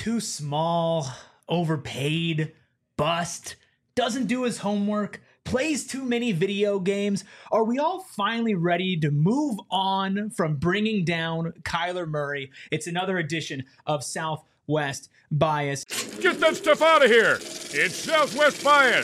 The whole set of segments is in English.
too small, overpaid, bust, doesn't do his homework, plays too many video games? Are we all finally ready to move on from bringing down Kyler Murray? It's another edition of Southwest Bias. Get that stuff out of here. It's Southwest Bias.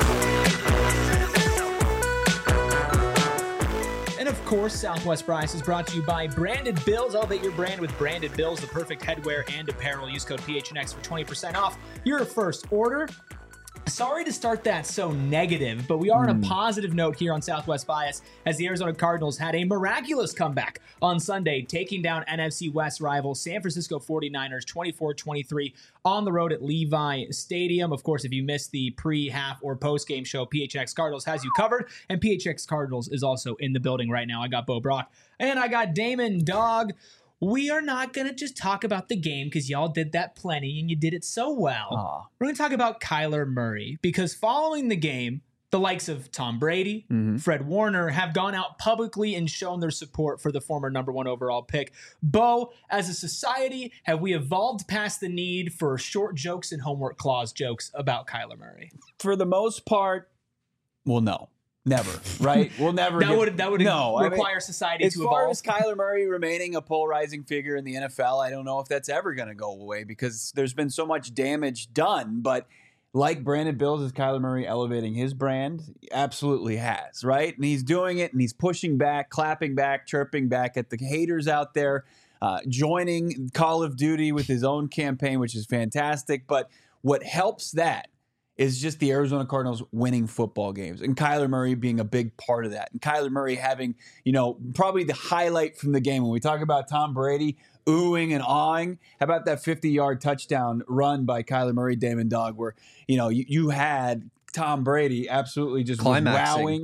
And of course, Southwest Bias is brought to you by Branded Bills. Elevate your brand with Branded Bills, the perfect headwear and apparel. Use code PHNX for 20% off your first order. Sorry to start that so negative, but we are on a positive note here on Southwest Bias as the Arizona Cardinals had a miraculous comeback on Sunday, taking down NFC West rival San Francisco 49ers 24-23 on the road at Levi Stadium. Of course, if you missed the pre-half or post-game show, PHX Cardinals has you covered, and PHX Cardinals is also in the building right now. I got Bo Brock, and I got Damon Dog. We are not going to just talk about the game because y'all did that plenty and you did it so well. Aww. We're going to talk about Kyler Murray because following the game, the likes of Tom Brady, Fred Warner have gone out publicly and shown their support for the former number one overall pick. Bo, as a society, have we evolved past the need for short jokes and homework clause jokes about Kyler Murray? For the most part, well, no. Never, right? We'll never. That would require society to evolve. As far as Kyler Murray remaining a polarizing figure in the NFL, I don't know if that's ever going to go away because there's been so much damage done. But like Brandon Bills, is Kyler Murray elevating his brand? Absolutely has, right? And he's doing it, and he's pushing back, clapping back, chirping back at the haters out there, joining Call of Duty with his own campaign, which is fantastic. But what helps that is just the Arizona Cardinals winning football games and Kyler Murray being a big part of that. And Kyler Murray having, probably the highlight from the game. When we talk about Tom Brady oohing and awing, how about that 50-yard touchdown run by Kyler Murray, Damon Dog, where, you had Tom Brady absolutely just wowing.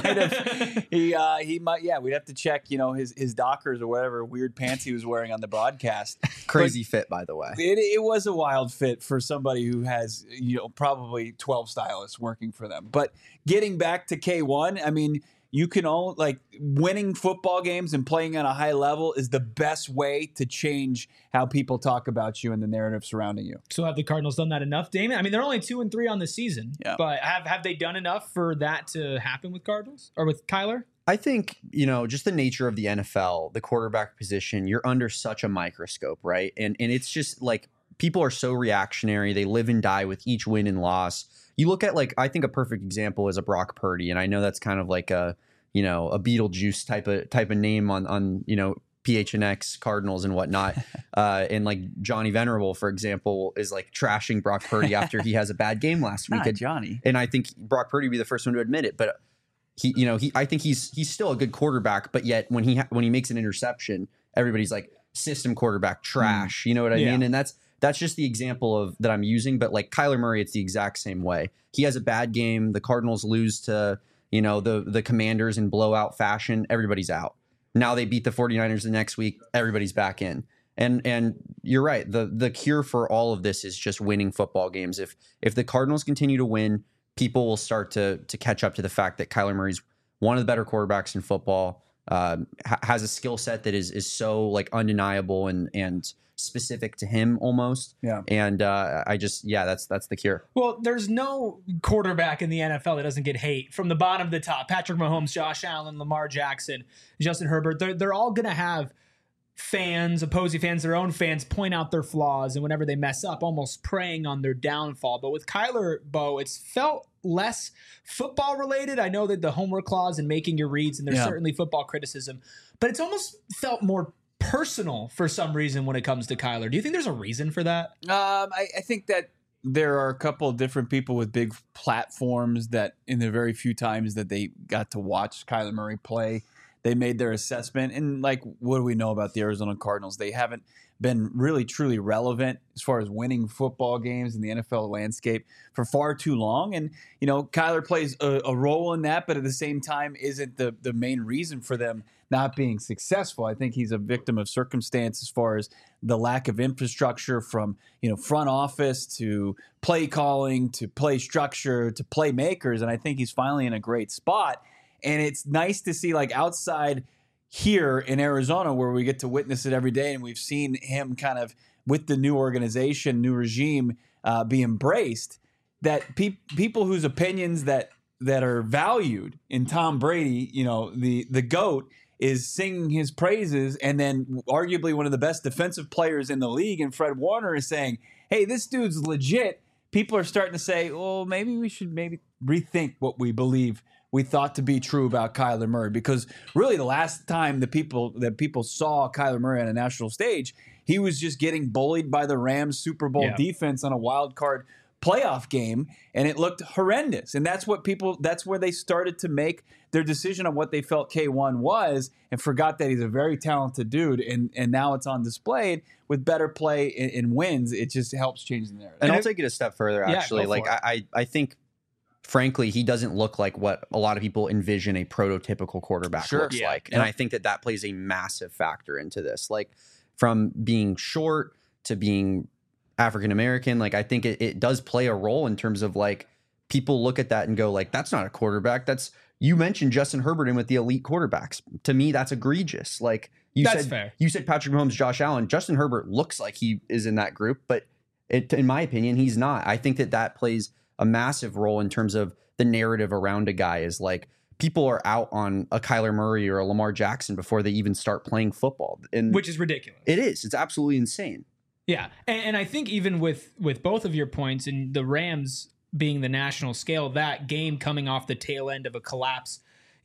He might, we'd have to check, his Dockers or whatever weird pants he was wearing on the broadcast. Crazy fit, by the way. It was a wild fit for somebody who has, probably 12 stylists working for them. But getting back to K1, I mean, you can winning football games and playing at a high level is the best way to change how people talk about you and the narrative surrounding you. So have the Cardinals done that enough, Damon? I mean, they're only 2-3 on the season, but have they done enough for that to happen with Cardinals or with Kyler? I think, just the nature of the NFL, the quarterback position, you're under such a microscope, right? And it's just like people are so reactionary. They live and die with each win and loss. You look at I think a perfect example is a Brock Purdy, and I know that's kind of like a Beetlejuice type of name on PHNX Cardinals and whatnot. And Johnny Venerable, for example, is trashing Brock Purdy after he has a bad game last week. Johnny. And I think Brock Purdy would be the first one to admit it, but I think he's still a good quarterback, but yet when he makes an interception, everybody's like system quarterback trash. You know what I mean? And that's just the example of that I'm using. But Kyler Murray, it's the exact same way. He has a bad game. The Cardinals lose to, the Commanders in blowout fashion. Everybody's out. Now they beat the 49ers the next week. Everybody's back in. And you're right. The cure for all of this is just winning football games. If the Cardinals continue to win, people will start to catch up to the fact that Kyler Murray's one of the better quarterbacks in football, has a skill set that is so undeniable and specific to him almost. Yeah. And that's the cure. Well, there's no quarterback in the NFL that doesn't get hate from the bottom to the top. Patrick Mahomes, Josh Allen, Lamar Jackson, Justin Herbert, they're all going to have fans, opposing fans, their own fans point out their flaws, and whenever they mess up, almost preying on their downfall. But with Kyler, Bo, it's felt less football related. I know that the homework clause and making your reads, and there's certainly football criticism, but it's almost felt more personal for some reason when it comes to Kyler. Do you think there's a reason for that? I think that there are a couple of different people with big platforms that in the very few times that they got to watch Kyler Murray play, they made their assessment. And what do we know about the Arizona Cardinals? They haven't been really truly relevant as far as winning football games in the NFL landscape for far too long. And, Kyler plays a role in that, but at the same time isn't the main reason for them not being successful. I think he's a victim of circumstance as far as the lack of infrastructure from, front office to play calling to play structure to playmakers. And I think he's finally in a great spot. And it's nice to see outside here in Arizona where we get to witness it every day. And we've seen him kind of with the new organization, new regime be embraced, that people whose opinions that are valued in Tom Brady, the GOAT, is singing his praises, and then arguably one of the best defensive players in the league, and Fred Warner is saying, hey, this dude's legit. People are starting to say, well, maybe we should rethink what we thought to be true about Kyler Murray, because really the last time that people saw Kyler Murray on a national stage, he was just getting bullied by the Rams Super Bowl defense on a wild card playoff game, and it looked horrendous. And that's where they started to make their decision on what they felt K1 was, and forgot that he's a very talented dude. And now it's on display with better play and wins. It just helps change the narrative. And I'll take it a step further, actually. I think, frankly, he doesn't look like what a lot of people envision a prototypical quarterback looks like. And I think that plays a massive factor into this. Like, from being short to being African-American, like, I think it does play a role in terms of, like, people look at that and go, like, that's not a quarterback. You mentioned Justin Herbert in with the elite quarterbacks. To me, that's egregious. Like, that's fair. You said Patrick Mahomes, Josh Allen. Justin Herbert looks like he is in that group, but in my opinion, he's not. I think that plays a massive role in terms of the narrative around a guy, is like, people are out on a Kyler Murray or a Lamar Jackson before they even start playing football. Which is ridiculous. It is. It's absolutely insane. Yeah. And I think even with both of your points, and the Rams being the national scale, that game coming off the tail end of a collapse,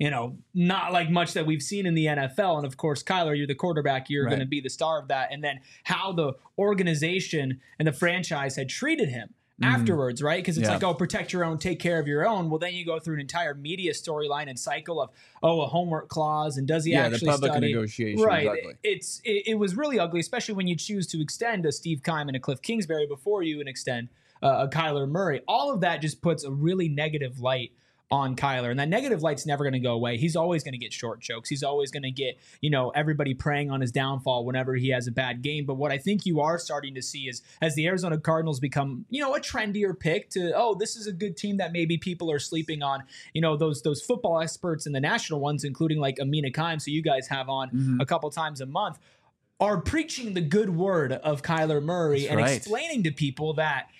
not like much that we've seen in the NFL. And of course, Kyler, you're the quarterback, you're going to be the star of that. And then how the organization and the franchise had treated him afterwards, right? Because it's like, oh, protect your own, take care of your own. Well, then you go through an entire media storyline and cycle of, a homework clause, and does he actually the public study? Negotiation, right. Exactly. It was really ugly, especially when you choose to extend a Steve Keim and a Cliff Kingsbury before you extend a Kyler Murray. All of that just puts a really negative light on Kyler, and that negative light's never going to go away. He's always going to get short jokes. He's always going to get, everybody preying on his downfall whenever he has a bad game. But what I think you are starting to see is, as the Arizona Cardinals become, a trendier pick to, this is a good team that maybe people are sleeping on, those football experts and the national ones, including like Amina Keim, so you guys have on a couple times a month, are preaching the good word of Kyler Murray explaining to people that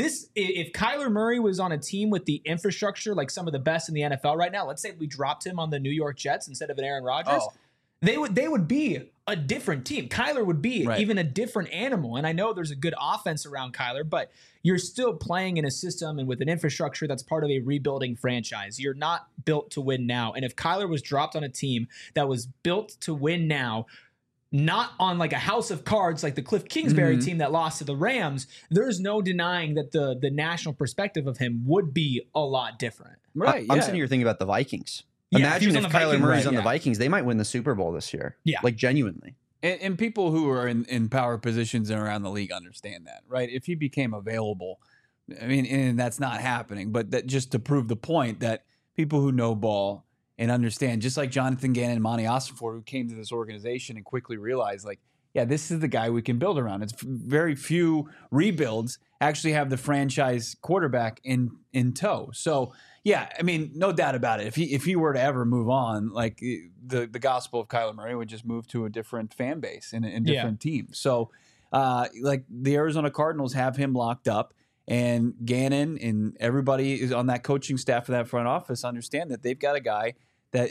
if Kyler Murray was on a team with the infrastructure like some of the best in the NFL right now, let's say we dropped him on the New York Jets instead of an Aaron Rodgers, they would be a different team. Kyler would be even a different animal. And I know there's a good offense around Kyler, but you're still playing in a system and with an infrastructure that's part of a rebuilding franchise. You're not built to win now. And if Kyler was dropped on a team that was built to win now, not on like a house of cards like the Cliff Kingsbury team that lost to the Rams, there's no denying that the national perspective of him would be a lot different. Right. I'm sitting here thinking about the Vikings. Imagine if Kyler Murray's on the Vikings, they might win the Super Bowl this year. Yeah. Like, genuinely. And people who are in power positions and around the league understand that, right? If he became available, and that's not happening, but that just to prove the point that people who know ball and understand, just like Jonathan Gannon and Monty Ossenfort, who came to this organization and quickly realized, like, yeah, this is the guy we can build around. It's very few rebuilds actually have the franchise quarterback in tow. So, yeah, no doubt about it. If he were to ever move on, like, the gospel of Kyler Murray would just move to a different fan base and different team. So, like, the Arizona Cardinals have him locked up. And Gannon and everybody is on that coaching staff of that front office understand that they've got a guy that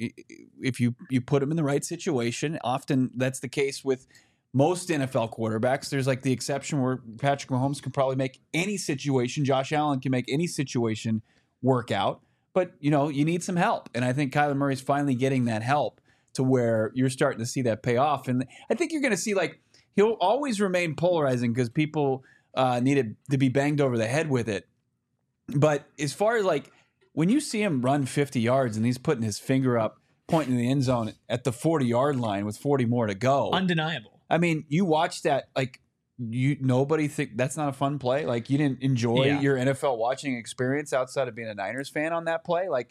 if you put him in the right situation, often that's the case with most NFL quarterbacks. There's like the exception where Patrick Mahomes can probably make any situation. Josh Allen can make any situation work out. But, you need some help. And I think Kyler Murray's finally getting that help to where you're starting to see that pay off. And I think you're going to see, like, he'll always remain polarizing because people needed to be banged over the head with it. But as far as, like, when you see him run 50 yards and he's putting his finger up, pointing in the end zone at the 40-yard line with 40 more to go. Undeniable. You watch that, like, nobody think that's not a fun play? Like, you didn't enjoy your NFL watching experience outside of being a Niners fan on that play? Like,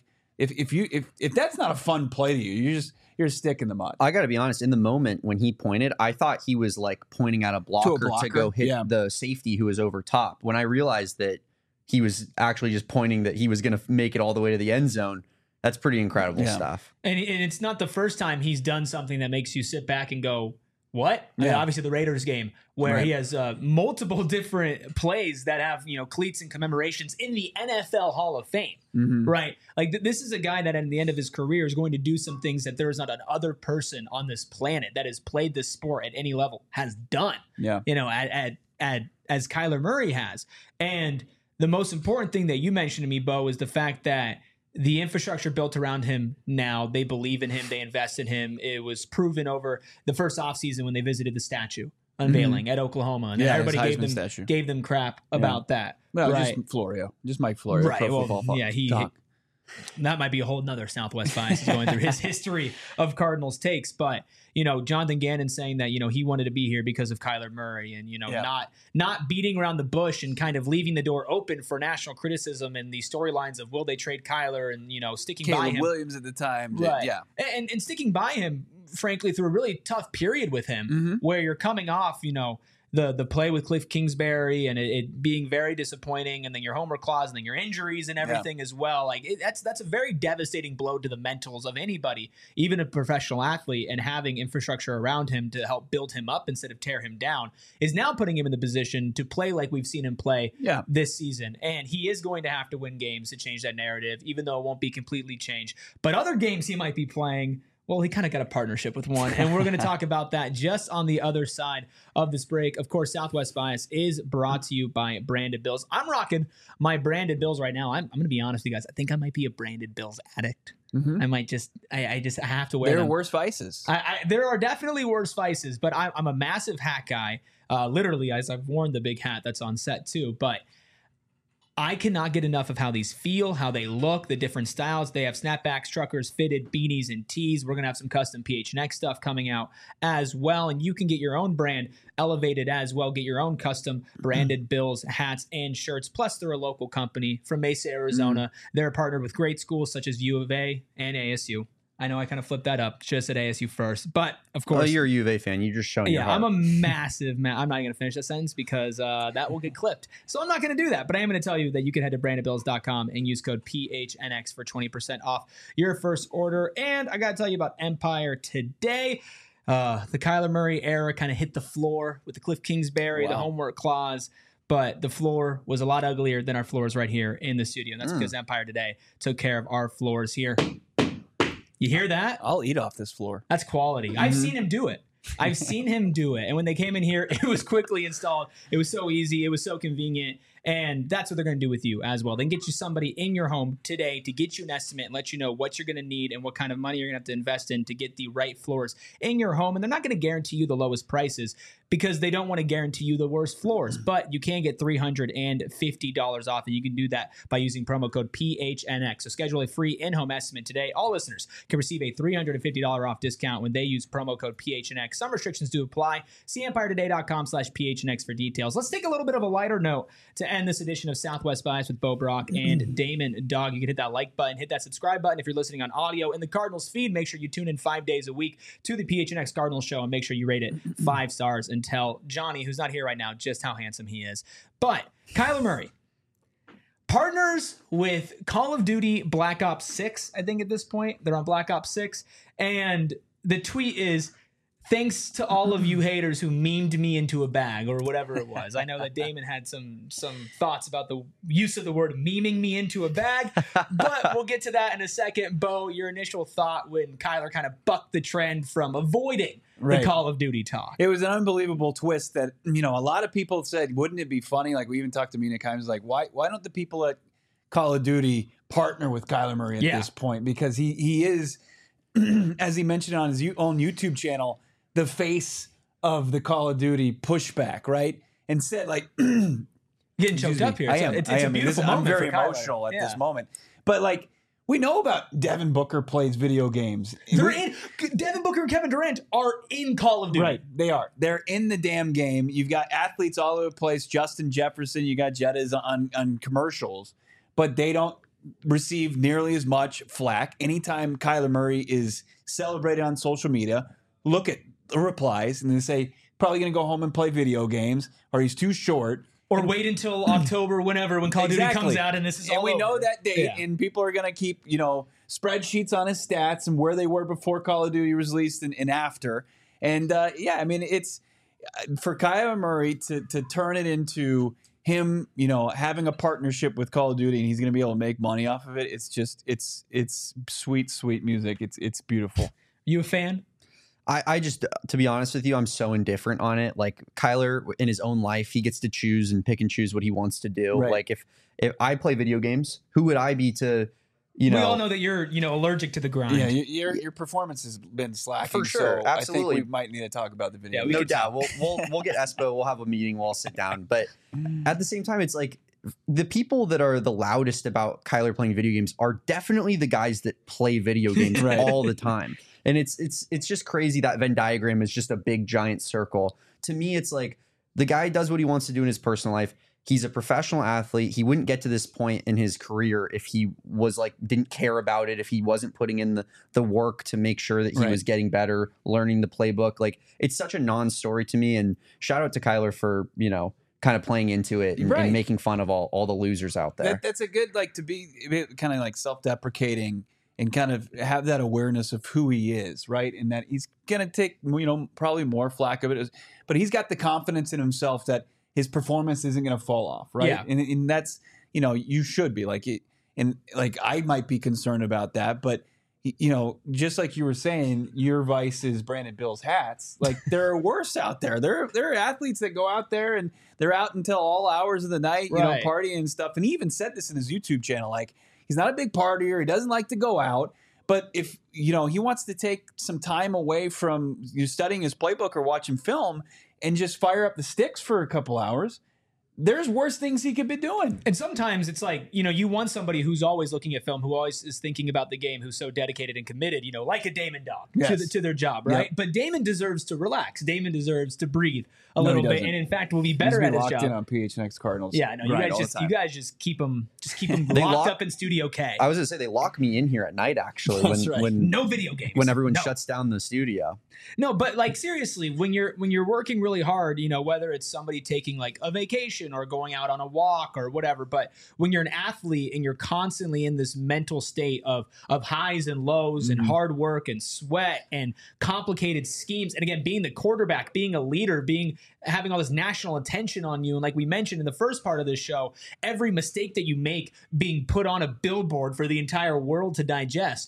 if that's not a fun play to you, you're a stick in the mud. I got to be honest. In the moment when he pointed, I thought he was like pointing at a blocker to go hit the safety who was over top. When I realized that he was actually just pointing that he was going to make it all the way to the end zone, that's pretty incredible stuff. And it's not the first time he's done something that makes you sit back and go, what? I mean, Yeah. obviously the Raiders game where Right. he has multiple different plays that have, cleats and commemorations in the NFL Hall of Fame, right? Like this is a guy that at the end of his career is going to do some things that there is not another person on this planet that has played this sport at any level has done, Yeah. as Kyler Murray has. And the most important thing that you mentioned to me, Bo, is the fact that the infrastructure built around him now, they believe in him, they invest in him. It was proven over the first offseason when they visited the statue unveiling at Oklahoma. And Yeah, everybody his gave Heisman them, statue. gave them crap about that. Well, right. just Florio. Just Mike Florio. Right. Pro Well, Football Talk. That might be a whole nother Southwest bias is going through his history of Cardinals takes. But, Jonathan Gannon saying that, he wanted to be here because of Kyler Murray and, not beating around the bush and kind of leaving the door open for national criticism and the storylines of will they trade Kyler and, sticking by Caleb him. Williams at the time. Right. Yeah. And sticking by him, frankly, through a really tough period with him where you're coming off, the play with Cliff Kingsbury and it being very disappointing, and then your homer clause and then your injuries and everything as well. Like that's a very devastating blow to the mentals of anybody, even a professional athlete, and having infrastructure around him to help build him up instead of tear him down is now putting him in the position to play like we've seen him play this season. And he is going to have to win games to change that narrative, even though it won't be completely changed. But other games he might be playing, well, he kind of got a partnership with one, and we're going to talk about that just on the other side of this break. Of course, Southwest Bias is brought to you by Branded Bills. I'm rocking my Branded Bills right now. I'm going to be honest with you guys. I think I might be a Branded Bills addict. I might just, I have to wear them. There are worse vices. There are definitely worse vices, but I'm a massive hat guy. Literally, as I've worn the big hat that's on set too, but I cannot get enough of how these feel, how they look, the different styles. They have snapbacks, truckers, fitted, beanies, and tees. We're going to have some custom PHNX stuff coming out as well. And you can get your own brand elevated as well. Get your own custom branded Bills hats and shirts. Plus, they're a local company from Mesa, Arizona. They're partnered with great schools such as U of A and ASU. I know I kind of flipped that up. Just at ASU first. But, of course. Oh, you're a U of A fan. You're just showing your heart. I'm a massive I'm not going to finish that sentence because that will get clipped. So I'm not going to do that. But I am going to tell you that you can head to brandedbills.com and use code PHNX for 20% off your first order. And I got to tell you about Empire today. The Kyler Murray era kind of hit the floor with the Cliff Kingsbury, the homework clause. But the floor was a lot uglier than our floors right here in the studio. And that's because Empire today took care of our floors here. You hear that? I'll eat off this floor. That's quality. I've seen him do it. And when they came in here, it was quickly installed. It was so easy. It was so convenient. And that's what they're going to do with you as well. They can get you somebody in your home today to get you an estimate and let you know what you're going to need and what kind of money you're going to have to invest in to get the right floors in your home. And they're not going to guarantee you the lowest prices because they don't want to guarantee you the worst floors. But you can get $350 off, and you can do that by using promo code PHNX. So schedule a free in-home estimate today. All listeners can receive a $350 off discount when they use promo code PHNX. Some restrictions do apply. See EmpireToday.com/PHNX for details. Let's take a little bit of a lighter note to end this edition of Southwest Bias with Bo Brock and Damon Dog. You can hit that like button, hit that subscribe button if you're listening on audio in the Cardinals feed. Make sure you tune in 5 days a week to the PHNX Cardinals show and make sure you rate it 5 stars and tell Johnny, who's not here right now, just how handsome he is. But Kyler Murray partners with Call of Duty Black Ops 6, I think at this point. They're on Black Ops 6. And the tweet is, thanks to all of you haters who memed me into a bag or whatever it was. I know that Damon had some thoughts about the use of the word memeing me into a bag, but we'll get to that in a second. Bo, your initial thought when Kyler kind of bucked the trend from avoiding the Call of Duty talk. It was an unbelievable twist that, a lot of people said, wouldn't it be funny? Like we even talked to Mina Kimes, like, why don't the people at Call of Duty partner with Kyler Murray at this point? Because he is, as he mentioned on his own YouTube channel, the face of the Call of Duty pushback, right? And said, like, getting choked up here. It's a beautiful moment. I'm very for Kyler. emotional at this moment. But, like, we know about Devin Booker plays video games. Devin Booker and Kevin Durant are in Call of Duty. Right, they are. They're in the damn game. You've got athletes all over the place. Justin Jefferson, you got Jettas on commercials, but they don't receive nearly as much flack. Anytime Kyler Murray is celebrated on social media, look at the replies, and they say, probably going to go home and play video games, or he's too short. Or wait until October, when Call of Duty comes out, and this is all we over. know that date, and people are going to keep, spreadsheets on his stats and where they were before Call of Duty was released and after. And yeah, I mean, it's for Kyler Murray to turn it into him, you know, having a partnership with Call of Duty, and he's going to be able to make money off of it. It's just, it's sweet, sweet music. It's beautiful. You a fan? I just, to be honest with you, I'm so indifferent on it. Like Kyler in his own life, he gets to choose and pick and choose what he wants to do. Right. Like if I play video games, who would I be to, you know? We all know that you're, you know, allergic to the grind. Yeah, your performance has been slacking. For sure, so absolutely. I think we might need to talk about the video. Yeah, we No could doubt. We'll get Espo. We'll have a meeting. We'll all sit down. But at the same time, it's like the people that are the loudest about Kyler playing video games are definitely the guys that play video games Right. all the time. And it's just crazy that Venn diagram is just a big giant circle. To me, it's like the guy does what he wants to do in his personal life. He's a professional athlete. He wouldn't get to this point in his career if he was like didn't care about it, if he wasn't putting in the work to make sure that he Right. was getting better, learning the playbook. Like it's such a non-story to me. And shout out to Kyler for, you know, kind of playing into it and, Right. and making fun of all the losers out there. That's a good, like, to be kind of like self-deprecating and kind of have that awareness of who he is, right? And that he's going to take, you know, probably more flack of it, but he's got the confidence in himself that his performance isn't going to fall off, right? Yeah. And that's, you know, you should be like, and like I might be concerned about that, but you know, just like you were saying, your vice is Brandon Bill's hats. Like there are worse out there. There are athletes that go out there and they're out until all hours of the night, you know, Right. partying and stuff. And he even said this in his YouTube channel, like he's not a big partier. He doesn't like to go out. But if, you know, he wants to take some time away from studying his playbook or watching film and just fire up the sticks for a couple hours, there's worse things he could be doing. And sometimes it's like, you know, you want somebody who's always looking at film, who always is thinking about the game, who's so dedicated and committed, you know, like a Damon Dog Yes. to their job, right? Yep. But Damon deserves to relax. Damon deserves to breathe a No, he little bit, doesn't. and in fact, will be He's better been at his locked job. in on PHNX Cardinals. Yeah, I know. right, all the You time. guys just keep them They locked lock- up in Studio K. I was gonna say they lock me in here at night actually That's right. when No video games. when everyone No. shuts down the studio. No, but like seriously, when you're working really hard, you know, whether it's somebody taking like a vacation or going out on a walk or whatever, but when you're an athlete and you're constantly in this mental state of highs and lows and hard work and sweat and complicated schemes, and again, being the quarterback, being a leader, having all this national attention on you, and like we mentioned in the first part of this show, every mistake that you make being put on a billboard for the entire world to digest.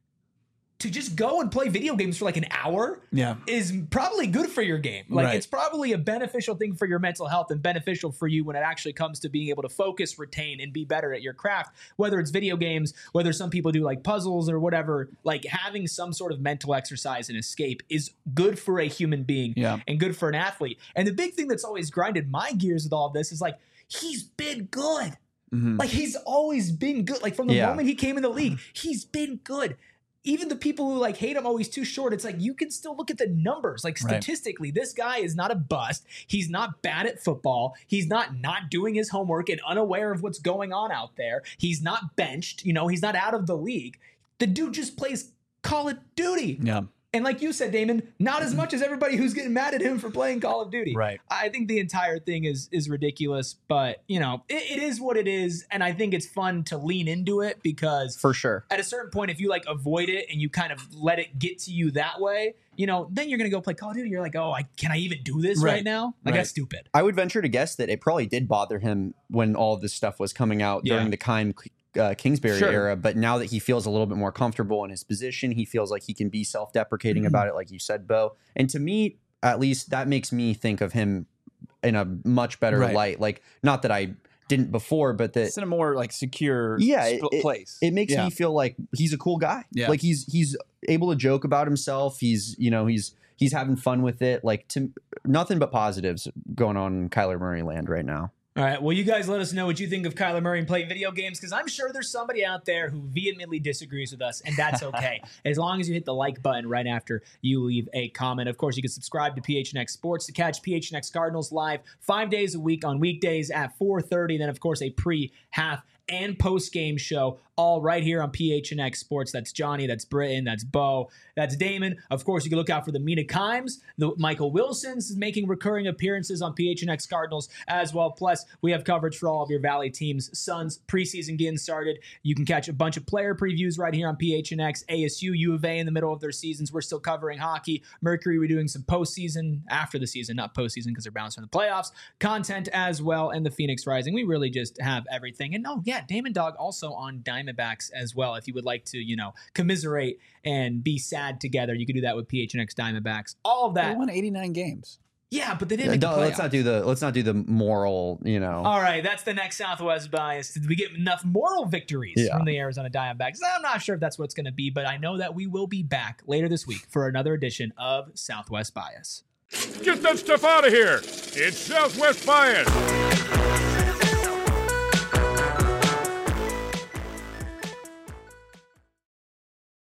To just go and play video games for like an hour Yeah. is probably good for your game. Like Right. it's probably a beneficial thing for your mental health and beneficial for you when it actually comes to being able to focus, retain, and be better at your craft. Whether it's video games, whether some people do like puzzles or whatever, like having some sort of mental exercise and escape is good for a human being Yeah. and good for an athlete. And the big thing that's always grinded my gears with all of this is like, he's been good. Mhm. Like he's always been good. Like from the Yeah. moment he came in the league, he's been good. Even the people who like hate him, oh, he's too short. It's like you can still look at the numbers. Like Right. statistically, this guy is not a bust. He's not bad at football. He's not doing his homework and unaware of what's going on out there. He's not benched. You know, he's not out of the league. The dude just plays Call of Duty. Yeah. And like you said, Damon, not as much as everybody who's getting mad at him for playing Call of Duty. Right. I think the entire thing is ridiculous, but you know, it is what it is. And I think it's fun to lean into it because For sure. at a certain point, if you like avoid it and you kind of let it get to you that way, you know, then you're going to go play Call of Duty. You're like, oh, can I even do this right, Right. now? Like Right. that's stupid. I would venture to guess that it probably did bother him when all of this stuff was coming out Yeah. during the Keim Kingsbury Sure. era. But now that he feels a little bit more comfortable in his position, he feels like he can be self-deprecating about it, like you said, Bo. And to me, at least, that makes me think of him in a much better Right. light. Like, not that I didn't before, but that It's in a more like secure Yeah, place. it makes Yeah. me feel like he's a cool guy. Yeah. Like he's able to joke about himself. He's having fun with it. Like nothing but positives going on in Kyler Murray land right now. All right. Well, you guys let us know what you think of Kyler Murray and playing video games because I'm sure there's somebody out there who vehemently disagrees with us, and that's okay. As long as you hit the like button right after you leave a comment. Of course, you can subscribe to PHNX Sports to catch PHNX Cardinals live 5 days a week on weekdays at 4:30. Then, of course, a pre-half and post-game show, all right here on PHNX Sports. That's Johnny, that's Britton, that's Bo, that's Damon. Of course, you can look out for the Mina Kimes, the Michael Wilsons making recurring appearances on PHNX Cardinals as well. Plus, we have coverage for all of your Valley teams. Suns preseason getting started. You can catch a bunch of player previews right here on PHNX. ASU, U of A in the middle of their seasons. We're still covering hockey. Mercury, we're doing some postseason after the season, not postseason because they're bounced from the playoffs. Content as well, and the Phoenix Rising. We really just have everything. And oh yeah, Damon Dog also on Diamondbacks as well. If you would like to, commiserate and be sad together, you can do that with PHNX Diamondbacks. All of that. They won 89 games. Yeah, but they didn't make the playoffs. Let's not do the moral, All right, that's the next Southwest bias. Did we get enough moral victories from the Arizona Diamondbacks? I'm not sure if that's what it's going to be, but I know that we will be back later this week for another edition of Southwest Bias. Get that stuff out of here. It's Southwest Bias.